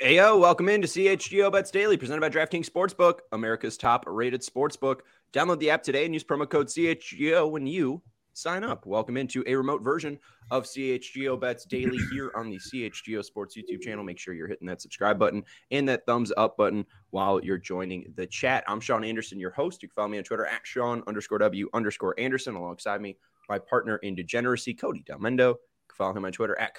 Ayo, welcome into CHGO Bets Daily, presented by DraftKings Sportsbook, America's top-rated sportsbook. Download the app today and use promo code CHGO when you sign up. Welcome into a remote version of CHGO Bets Daily here on the CHGO Sports YouTube channel. Make sure you're hitting that subscribe button and that thumbs up button while you're joining the chat. I'm Sean Anderson, your host. You can follow me on Twitter at Sean_W_Anderson, alongside me, my partner in degeneracy, Cody Delmendo. You can follow him on Twitter at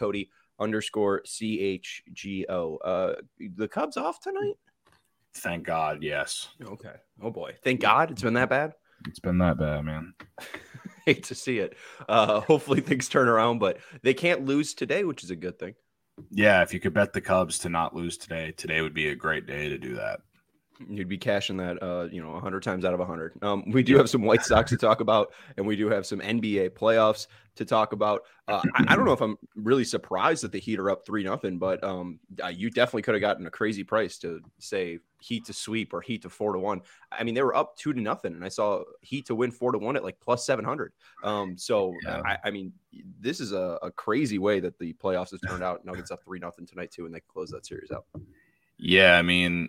Cody_CHGO. The Cubs off tonight? Thank God, yes. Okay. Oh, boy. Thank God it's been that bad? It's been that bad, man. Hate to see it. Hopefully things turn around, but they can't lose today, which is a good thing. Yeah, if you could bet the Cubs to not lose today would be a great day to do that. You'd be cashing that, 100 times out of 100. We do have some White Sox to talk about, and we do have some NBA playoffs to talk about. I don't know if I'm really surprised that the Heat are up 3-0, but you definitely could have gotten a crazy price to say Heat to sweep or Heat to 4-1. I mean, they were up 2-0, and I saw Heat to win 4-1 at like plus 700. I mean, this is a crazy way that the playoffs have turned out. Nuggets up 3-0 tonight too, and they close that series out. Yeah, I mean,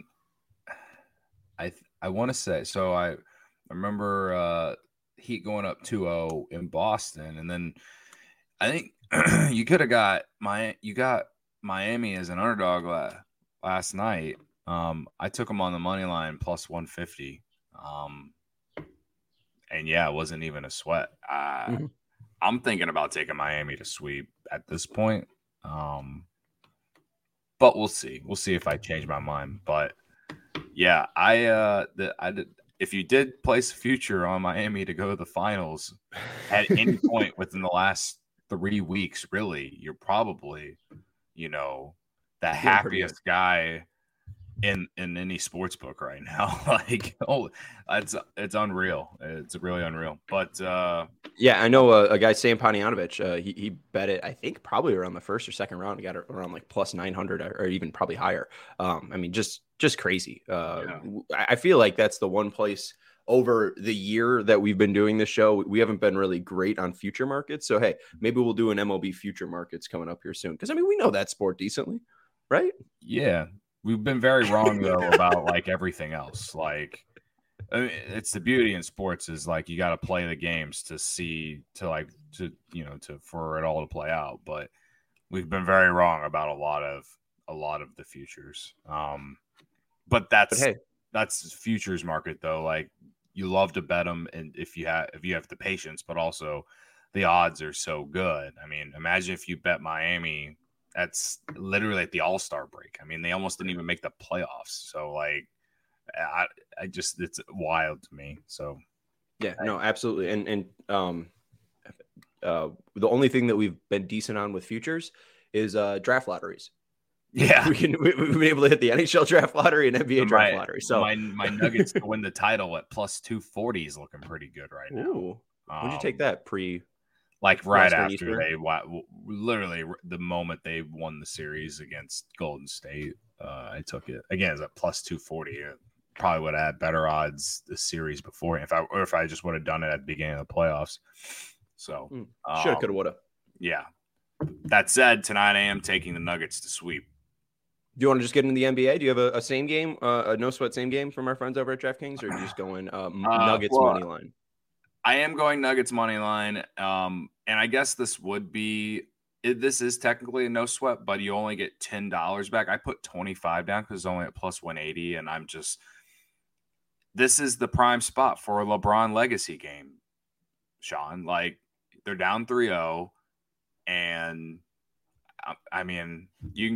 I want to say, so I remember Heat going up 2-0 in Boston, and then I think you could have got Miami as an underdog last night. I took them on the money line plus 150. And yeah, it wasn't even a sweat. I'm thinking about taking Miami to sweep at this point. But we'll see. We'll see if I change my mind. But yeah, if you did place a future on Miami to go to the finals at any point within the last 3 weeks, really, you're probably, the happiest guy in any sports book right now. Like, it's unreal. It's really unreal. But yeah, I know a guy, Sam Panayotovich, he bet it, I think probably around the first or second round. He got it around like plus 900 or even probably higher. I mean, just crazy. I feel like that's the one place over the year that we've been doing this show, we haven't been really great on future markets. So, hey, maybe we'll do an MLB future markets coming up here soon. Because, I mean, we know that sport decently, right? Yeah. We've been very wrong, though, about, like, everything else. Like, I mean, it's the beauty in sports is, like, you got to play the games to for it all to play out. But we've been very wrong about a lot of the futures. But that's futures market, though. Like, you love to bet them, and if you have the patience, but also the odds are so good. I mean, imagine if you bet Miami. That's literally like the All-Star break. I mean, they almost didn't even make the playoffs. So, like, it's wild to me. So, yeah, no, absolutely. And the only thing that we've been decent on with futures is draft lotteries. Yeah, we've been able to hit the NHL draft lottery and NBA draft lottery. So my Nuggets to win the title at plus 240 is looking pretty good right now. Ooh, would you take that like right after literally the moment they won the series against Golden State, I took it again as a plus 240. Probably would have had better odds the series before if I just would have done it at the beginning of the playoffs. So shoulda, coulda, woulda. Yeah. That said, tonight I am taking the Nuggets to sweep. Do you want to just get into the NBA? Do you have a same game, a no sweat same game from our friends over at DraftKings, or are you just going Nuggets money line? I am going Nuggets money line, and I guess this is technically a no sweat, but you only get $10 back. I put 25 down because it's only at plus 180, and this is the prime spot for a LeBron legacy game, Sean. Like, they're down 3-0, and I mean,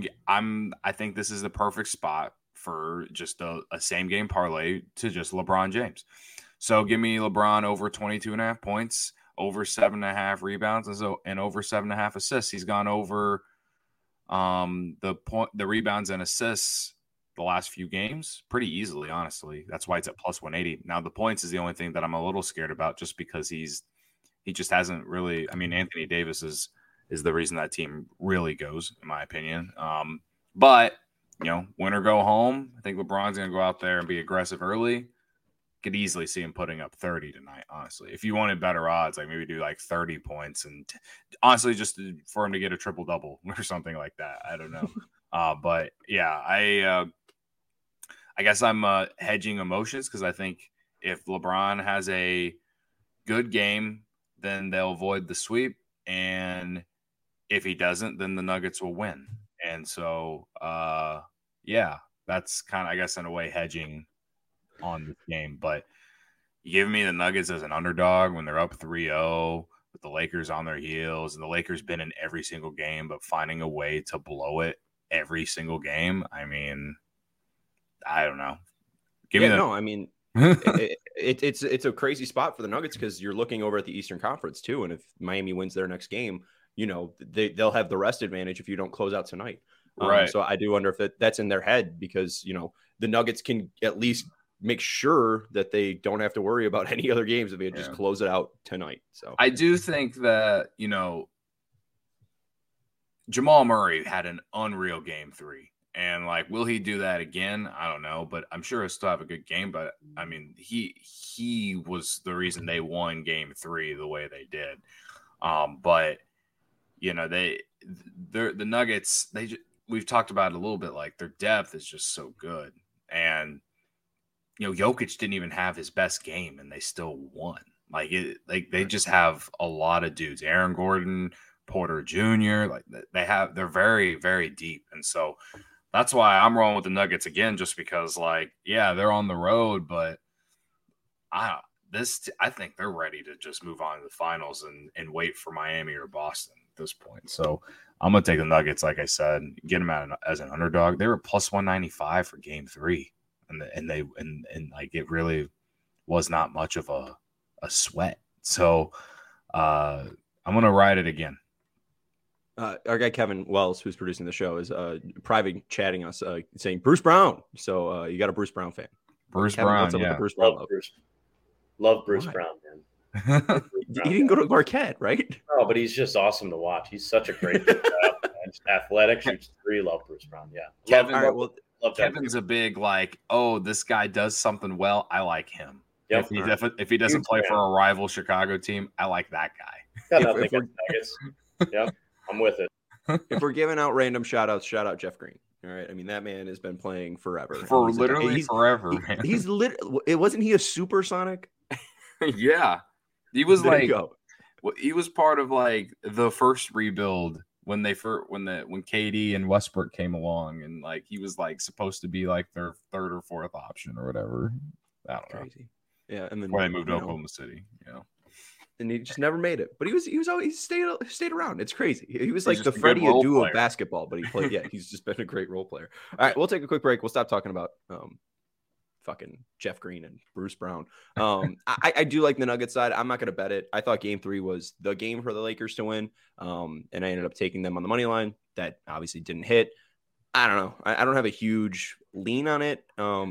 I think this is the perfect spot for just a same game parlay to just LeBron James. So give me LeBron over 22.5 points, over 7.5 rebounds, and over 7.5 assists. He's gone over the rebounds and assists the last few games pretty easily, honestly. That's why it's at plus 180. Now the points is the only thing that I'm a little scared about, just because he just hasn't really. I mean, Anthony Davis is the reason that team really goes, in my opinion. But win or go home. I think LeBron's going to go out there and be aggressive early. Could easily see him putting up 30 tonight, honestly. If you wanted better odds, like maybe do like 30 points and honestly just for him to get a triple-double or something like that. I don't know. But yeah, I guess I'm hedging emotions because I think if LeBron has a good game, then they'll avoid the sweep, and if he doesn't, then the Nuggets will win. And so, yeah, that's kind of, I guess, in a way, hedging on this game. But you give me the Nuggets as an underdog when they're up 3-0 with the Lakers on their heels, and the Lakers been in every single game, but finding a way to blow it every single game. I mean, I don't know. Give me no, I mean, it's a crazy spot for the Nuggets because you're looking over at the Eastern Conference too, and if Miami wins their next game, you know they'll have the rest advantage if you don't close out tonight. Right. So I do wonder if that's in their head because you know the Nuggets can at least make sure that they don't have to worry about any other games if they just close it out tonight. So I do think that Jamal Murray had an unreal game 3. And like, will he do that again? I don't know, but I'm sure he'll still have a good game. But I mean, he was the reason they won game 3 the way they did. But the Nuggets, we've talked about it a little bit. Like their depth is just so good, and Jokic didn't even have his best game, and they still won. They just have a lot of dudes. Aaron Gordon, Porter Jr. They're very, very deep, and so. That's why I'm rolling with the Nuggets again, just because, they're on the road, but I think they're ready to just move on to the finals and wait for Miami or Boston at this point. So I'm gonna take the Nuggets, like I said, get them out as an underdog. They were plus 195 for Game 3, and it really was not much of a sweat. So I'm gonna ride it again. Our guy Kevin Wells, who's producing the show, is private chatting us, saying Bruce Brown. So you got a Bruce Brown fan. Bruce Kevin, Brown, yeah. Bruce Brown love Bruce Brown, man. He didn't go to Marquette, right? No, but he's just awesome to watch. He's such a great athletic, shoots 3. Love Bruce Brown, yeah. Kevin's a big this guy does something well. I like him. Yep. If he doesn't play for a rival Chicago team, I like that guy. Yep. I'm with it. If we're giving out random shout outs, shout out Jeff Green. All right. I mean, that man has been playing forever. For literally forever, man. It wasn't he a supersonic? Yeah. He was he was part of the first rebuild when KD and Westbrook came along, and he was supposed to be their third or fourth option or whatever. I don't know. Crazy. Yeah. And then when they moved to Oklahoma City, and he just never made it. But he always stayed around. It's crazy. He was like the Freddie Adu of basketball, but he played. Yeah, he's just been a great role player. All right, we'll take a quick break. We'll stop talking about fucking Jeff Green and Bruce Brown. I do like the Nuggets side. I'm not going to bet it. I thought Game 3 was the game for the Lakers to win, and I ended up taking them on the money line. That obviously didn't hit. I don't know. I don't have a huge lean on it.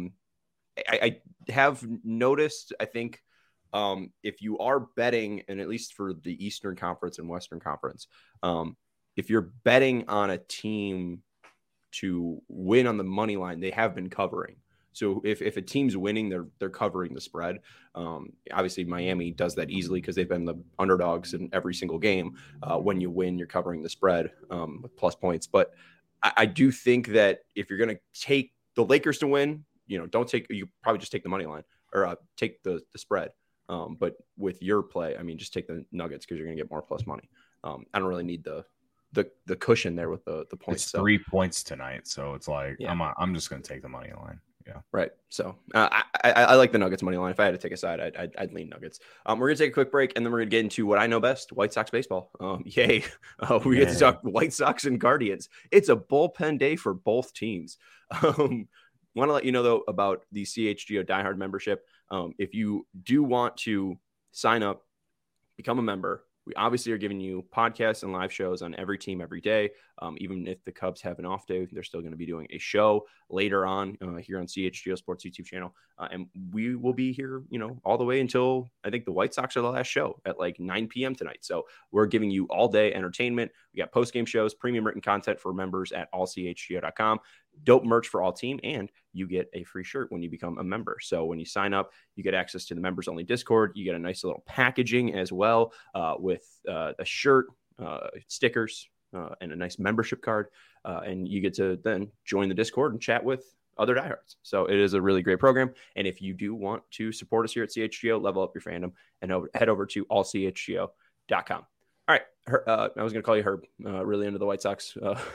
I have noticed. I think. If you are betting, and at least for the Eastern Conference and Western Conference, if you're betting on a team to win on the money line, they have been covering. So if a team's winning, they're covering the spread. Obviously, Miami does that easily because they've been the underdogs in every single game. When you win, you're covering the spread with plus points. But I do think that if you're going to take the Lakers to win, you probably just take the money line or take the spread. But with your play, I mean, just take the Nuggets because you're going to get more plus money. I don't really need the cushion there with the points. It's 3 points tonight, so it's I'm just going to take the money line. Yeah, right. So I like the Nuggets money line. If I had to take a side, I'd lean Nuggets. We're going to take a quick break, and then we're going to get into what I know best: White Sox baseball. Yay! We get to talk White Sox and Guardians. It's a bullpen day for both teams. Want to let you know though about the CHGO Diehard membership. If you do want to sign up, become a member, we obviously are giving you podcasts and live shows on every team every day. Even if the Cubs have an off day, they're still going to be doing a show later on here on CHGO Sports YouTube channel. And we will be here, all the way until I think the White Sox are the last show at 9 p.m. tonight. So we're giving you all day entertainment. We got post-game shows, premium written content for members at allchgo.com. Dope merch for all team, and you get a free shirt when you become a member. So when you sign up, you get access to the members only Discord. You get a nice little packaging as well with a shirt, stickers, and a nice membership card. And you get to then join the Discord and chat with other diehards. So it is a really great program. And if you do want to support us here at CHGO, level up your fandom, and head over to allchgo.com. All right. I was going to call you Herb, really into the White Sox.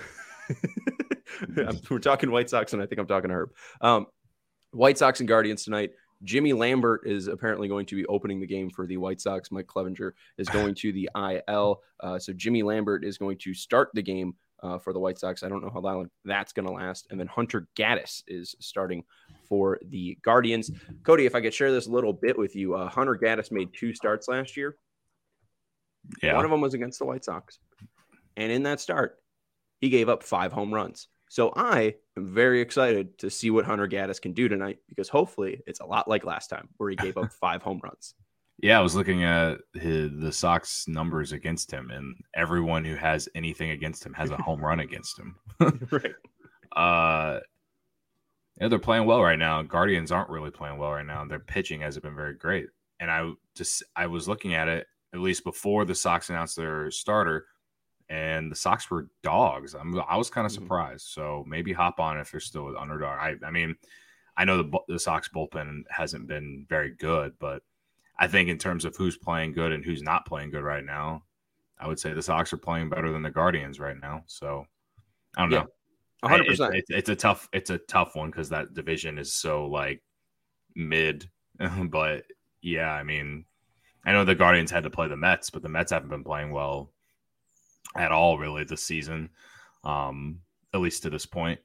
We're talking White Sox, and I think I'm talking to Herb. White Sox and Guardians tonight. Jimmy Lambert is apparently going to be opening the game for the White Sox. Mike Clevenger is going to the IL. So Jimmy Lambert is going to start the game for the White Sox. I don't know how long that's going to last. And then Hunter Gaddis is starting for the Guardians. Cody, if I could share this little bit with you, Hunter Gaddis made 2 starts last year. Yeah. One of them was against the White Sox. And in that start, he gave up 5 home runs. So I am very excited to see what Hunter Gaddis can do tonight, because hopefully it's a lot like last time where he gave up 5 home runs. Yeah, I was looking at the Sox numbers against him, and everyone who has anything against him has a home run against him. Right. Yeah, they're playing well right now. Guardians aren't really playing well right now. Their pitching hasn't been very great. And I was looking at it, at least before the Sox announced their starter, and the Sox were dogs. I was kind of surprised. So maybe hop on if they're still an underdog. I mean, I know the Sox bullpen hasn't been very good, but I think in terms of who's playing good and who's not playing good right now, I would say the Sox are playing better than the Guardians right now. So I don't know. 100%. It's a tough one because that division is so like mid. But yeah, I mean, I know the Guardians had to play the Mets, but the Mets haven't been playing well at all really this season, at least to this point.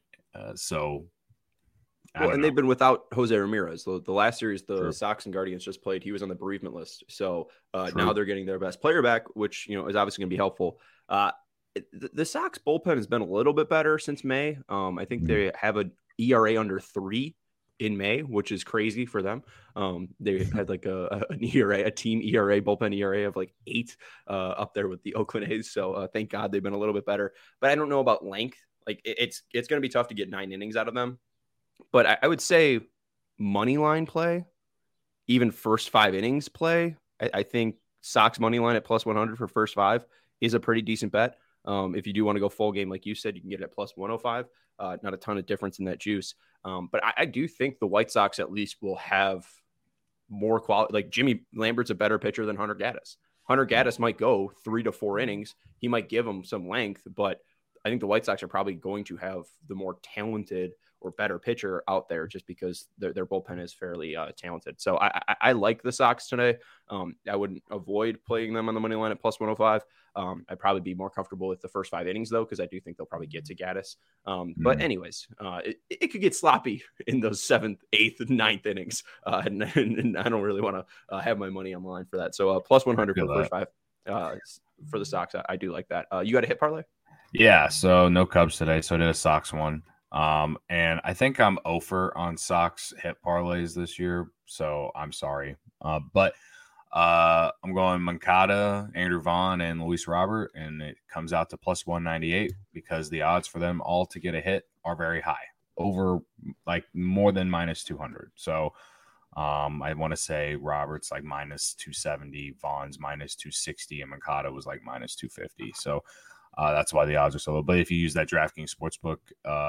And they've been without Jose Ramirez. The last series the Sox and Guardians just played, he was on the bereavement list. So now they're getting their best player back, which is obviously going to be helpful. The Sox bullpen has been a little bit better since May. I think they have an ERA under 3 in May, which is crazy for them. They had like an ERA, a team ERA, bullpen ERA of like 8 up there with the Oakland A's. So thank God they've been a little bit better. But I don't know about length. Like it's going to be tough to get 9 innings out of them. But I would say money line play, even first 5 innings play, I think Sox money line at plus 100 for first 5 is a pretty decent bet. If you do want to go full game, like you said, you can get it at plus 105. Not a ton of difference in that juice. But I do think the White Sox at least will have more quality. Like Jimmy Lambert's a better pitcher than Hunter Gaddis. Hunter Gaddis might go 3 to 4 innings. He might give them some length, but I think the White Sox are probably going to have the more talented or better pitcher out there just because their bullpen is fairly talented. So I like the Sox today. I wouldn't avoid playing them on the money line at plus 105. I'd probably be more comfortable with the first 5 innings though, because I do think they'll probably get to Gaddis. But anyways, it could get sloppy in those 7th, 8th, 9th innings. And I don't really want to have my money on the line for that. So plus 100 for the first 5 for the Sox. I do like that. You got a hit parlay? Yeah, so no Cubs today, so I did a Sox one. And I think I'm 0 on Sox hit parlays this year, so I'm sorry. But I'm going Moncada, Andrew Vaughn, and Luis Robert, and it comes out to plus 198 because the odds for them all to get a hit are very high, over like more than minus 200. So I want to say Robert's like minus 270, Vaughn's minus 260, and Moncada was like minus 250. So that's why the odds are so low. But if you use that DraftKings Sportsbook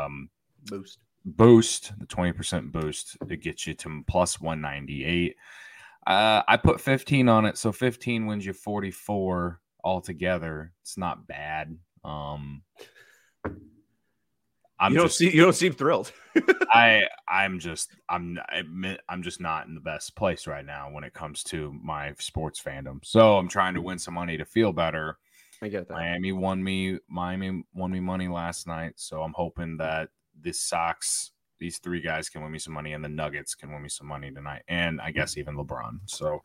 boost, the 20% boost, it gets you to plus 198. I put 15 on it, so 15 wins you 44 altogether. It's not bad. You don't seem thrilled. I'm just not in the best place right now when it comes to my sports fandom. So I'm trying to win some money to feel better. I get that. Miami won me money last night, so I'm hoping that these 3 guys can win me some money, and the Nuggets can win me some money tonight, and I guess even LeBron. So,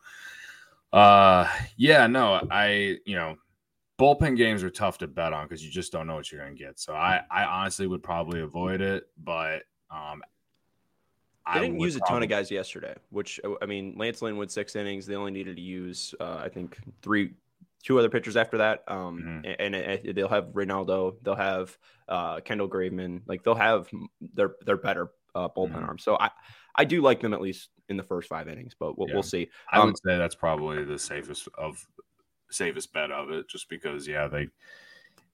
bullpen games are tough to bet on because you just don't know what you're going to get. So I honestly would probably avoid it, but they didn't use a ton of guys yesterday, which, I mean, Lance Lynn went 6 innings. They only needed to use, I think, 2 other pitchers after that. And they'll have Reynaldo, they'll have Kendall Graveman, like they'll have their better bullpen arms. So I do like them at least in the first 5 innings, but we'll see. I would say that's probably the safest bet of it, just because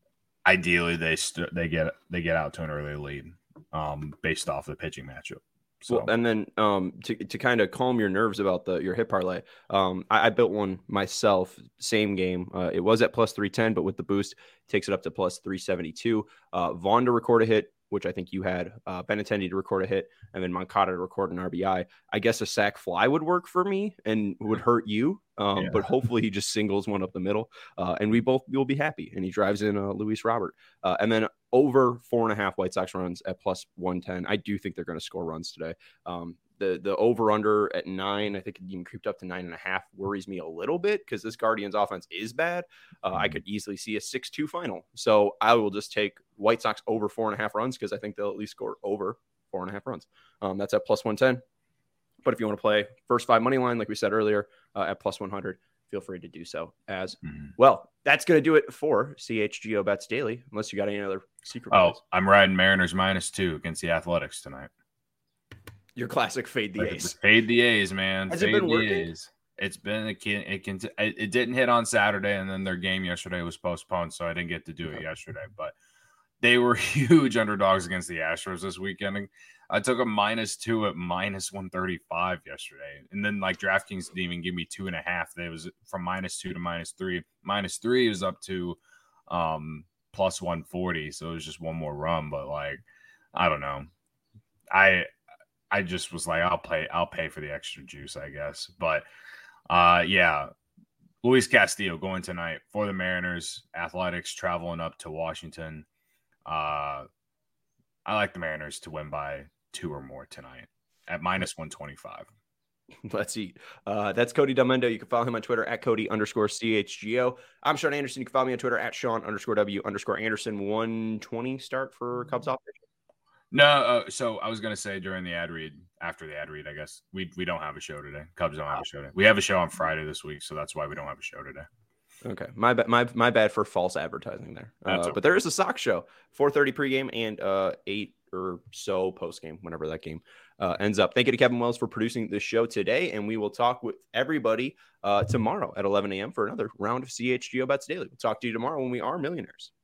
ideally they get out to an early lead, based off the pitching matchup. So, well, and then to kind of calm your nerves about your hit parlay, I built one myself, same game. It was at plus 310, but with the boost, takes it up to plus 372. Vaughn to record a hit, which I think you had, Benintendi to record a hit, and then Moncada to record an RBI. I guess a sac fly would work for me and would hurt you, but hopefully he just singles one up the middle, and will be happy. And he drives in Luis Robert, and then over 4.5 White Sox runs at plus 110. I do think they're going to score runs today. The over under at 9, I think it even creeped up to 9.5, worries me a little bit because this Guardians offense is bad. I could easily see a 6-2 final. So I will just take White Sox over 4.5 runs because I think they'll at least score over 4.5 runs. That's at plus 110. But if you want to play first 5 money line, like we said earlier, at plus 100, feel free to do so as well. That's going to do it for CHGO Bets Daily, unless you got any other secret plays. I'm riding Mariners -2 against the Athletics tonight. Your classic fade the A's. Fade the A's, man. Has fade it been the working? A's. It's been it didn't hit on Saturday, and then their game yesterday was postponed, so I didn't get to do it yesterday. But they were huge underdogs against the Astros this weekend. I took a -2 at -135 yesterday, and then like DraftKings didn't even give me 2.5. It was from -2 to -3. -3 was up to plus 140, so it was just one more run. But like, I don't know, I just was like, I'll pay for the extra juice, I guess. But yeah, Luis Castillo going tonight for the Mariners. Athletics traveling up to Washington. I like the Mariners to win by 2 or more tonight at -125. Let's eat. That's Cody Delmendo. You can follow him on Twitter at Cody_CHGO. I'm Sean Anderson. You can follow me on Twitter at Sean_W_Anderson. 120 start for Cubs off. No, so I was gonna say during the ad read, after the ad read, I guess we don't have a show today. Cubs don't have a show today. We have a show on Friday this week, so that's why we don't have a show today. Okay, my bad for false advertising there. Okay. But there is a Sox show, 4:30 pregame and 8 or so postgame, whenever that game ends up. Thank you to Kevin Wells for producing this show today, and we will talk with everybody tomorrow at 11 a.m. for another round of CHGO Bets Daily. We'll talk to you tomorrow when we are millionaires.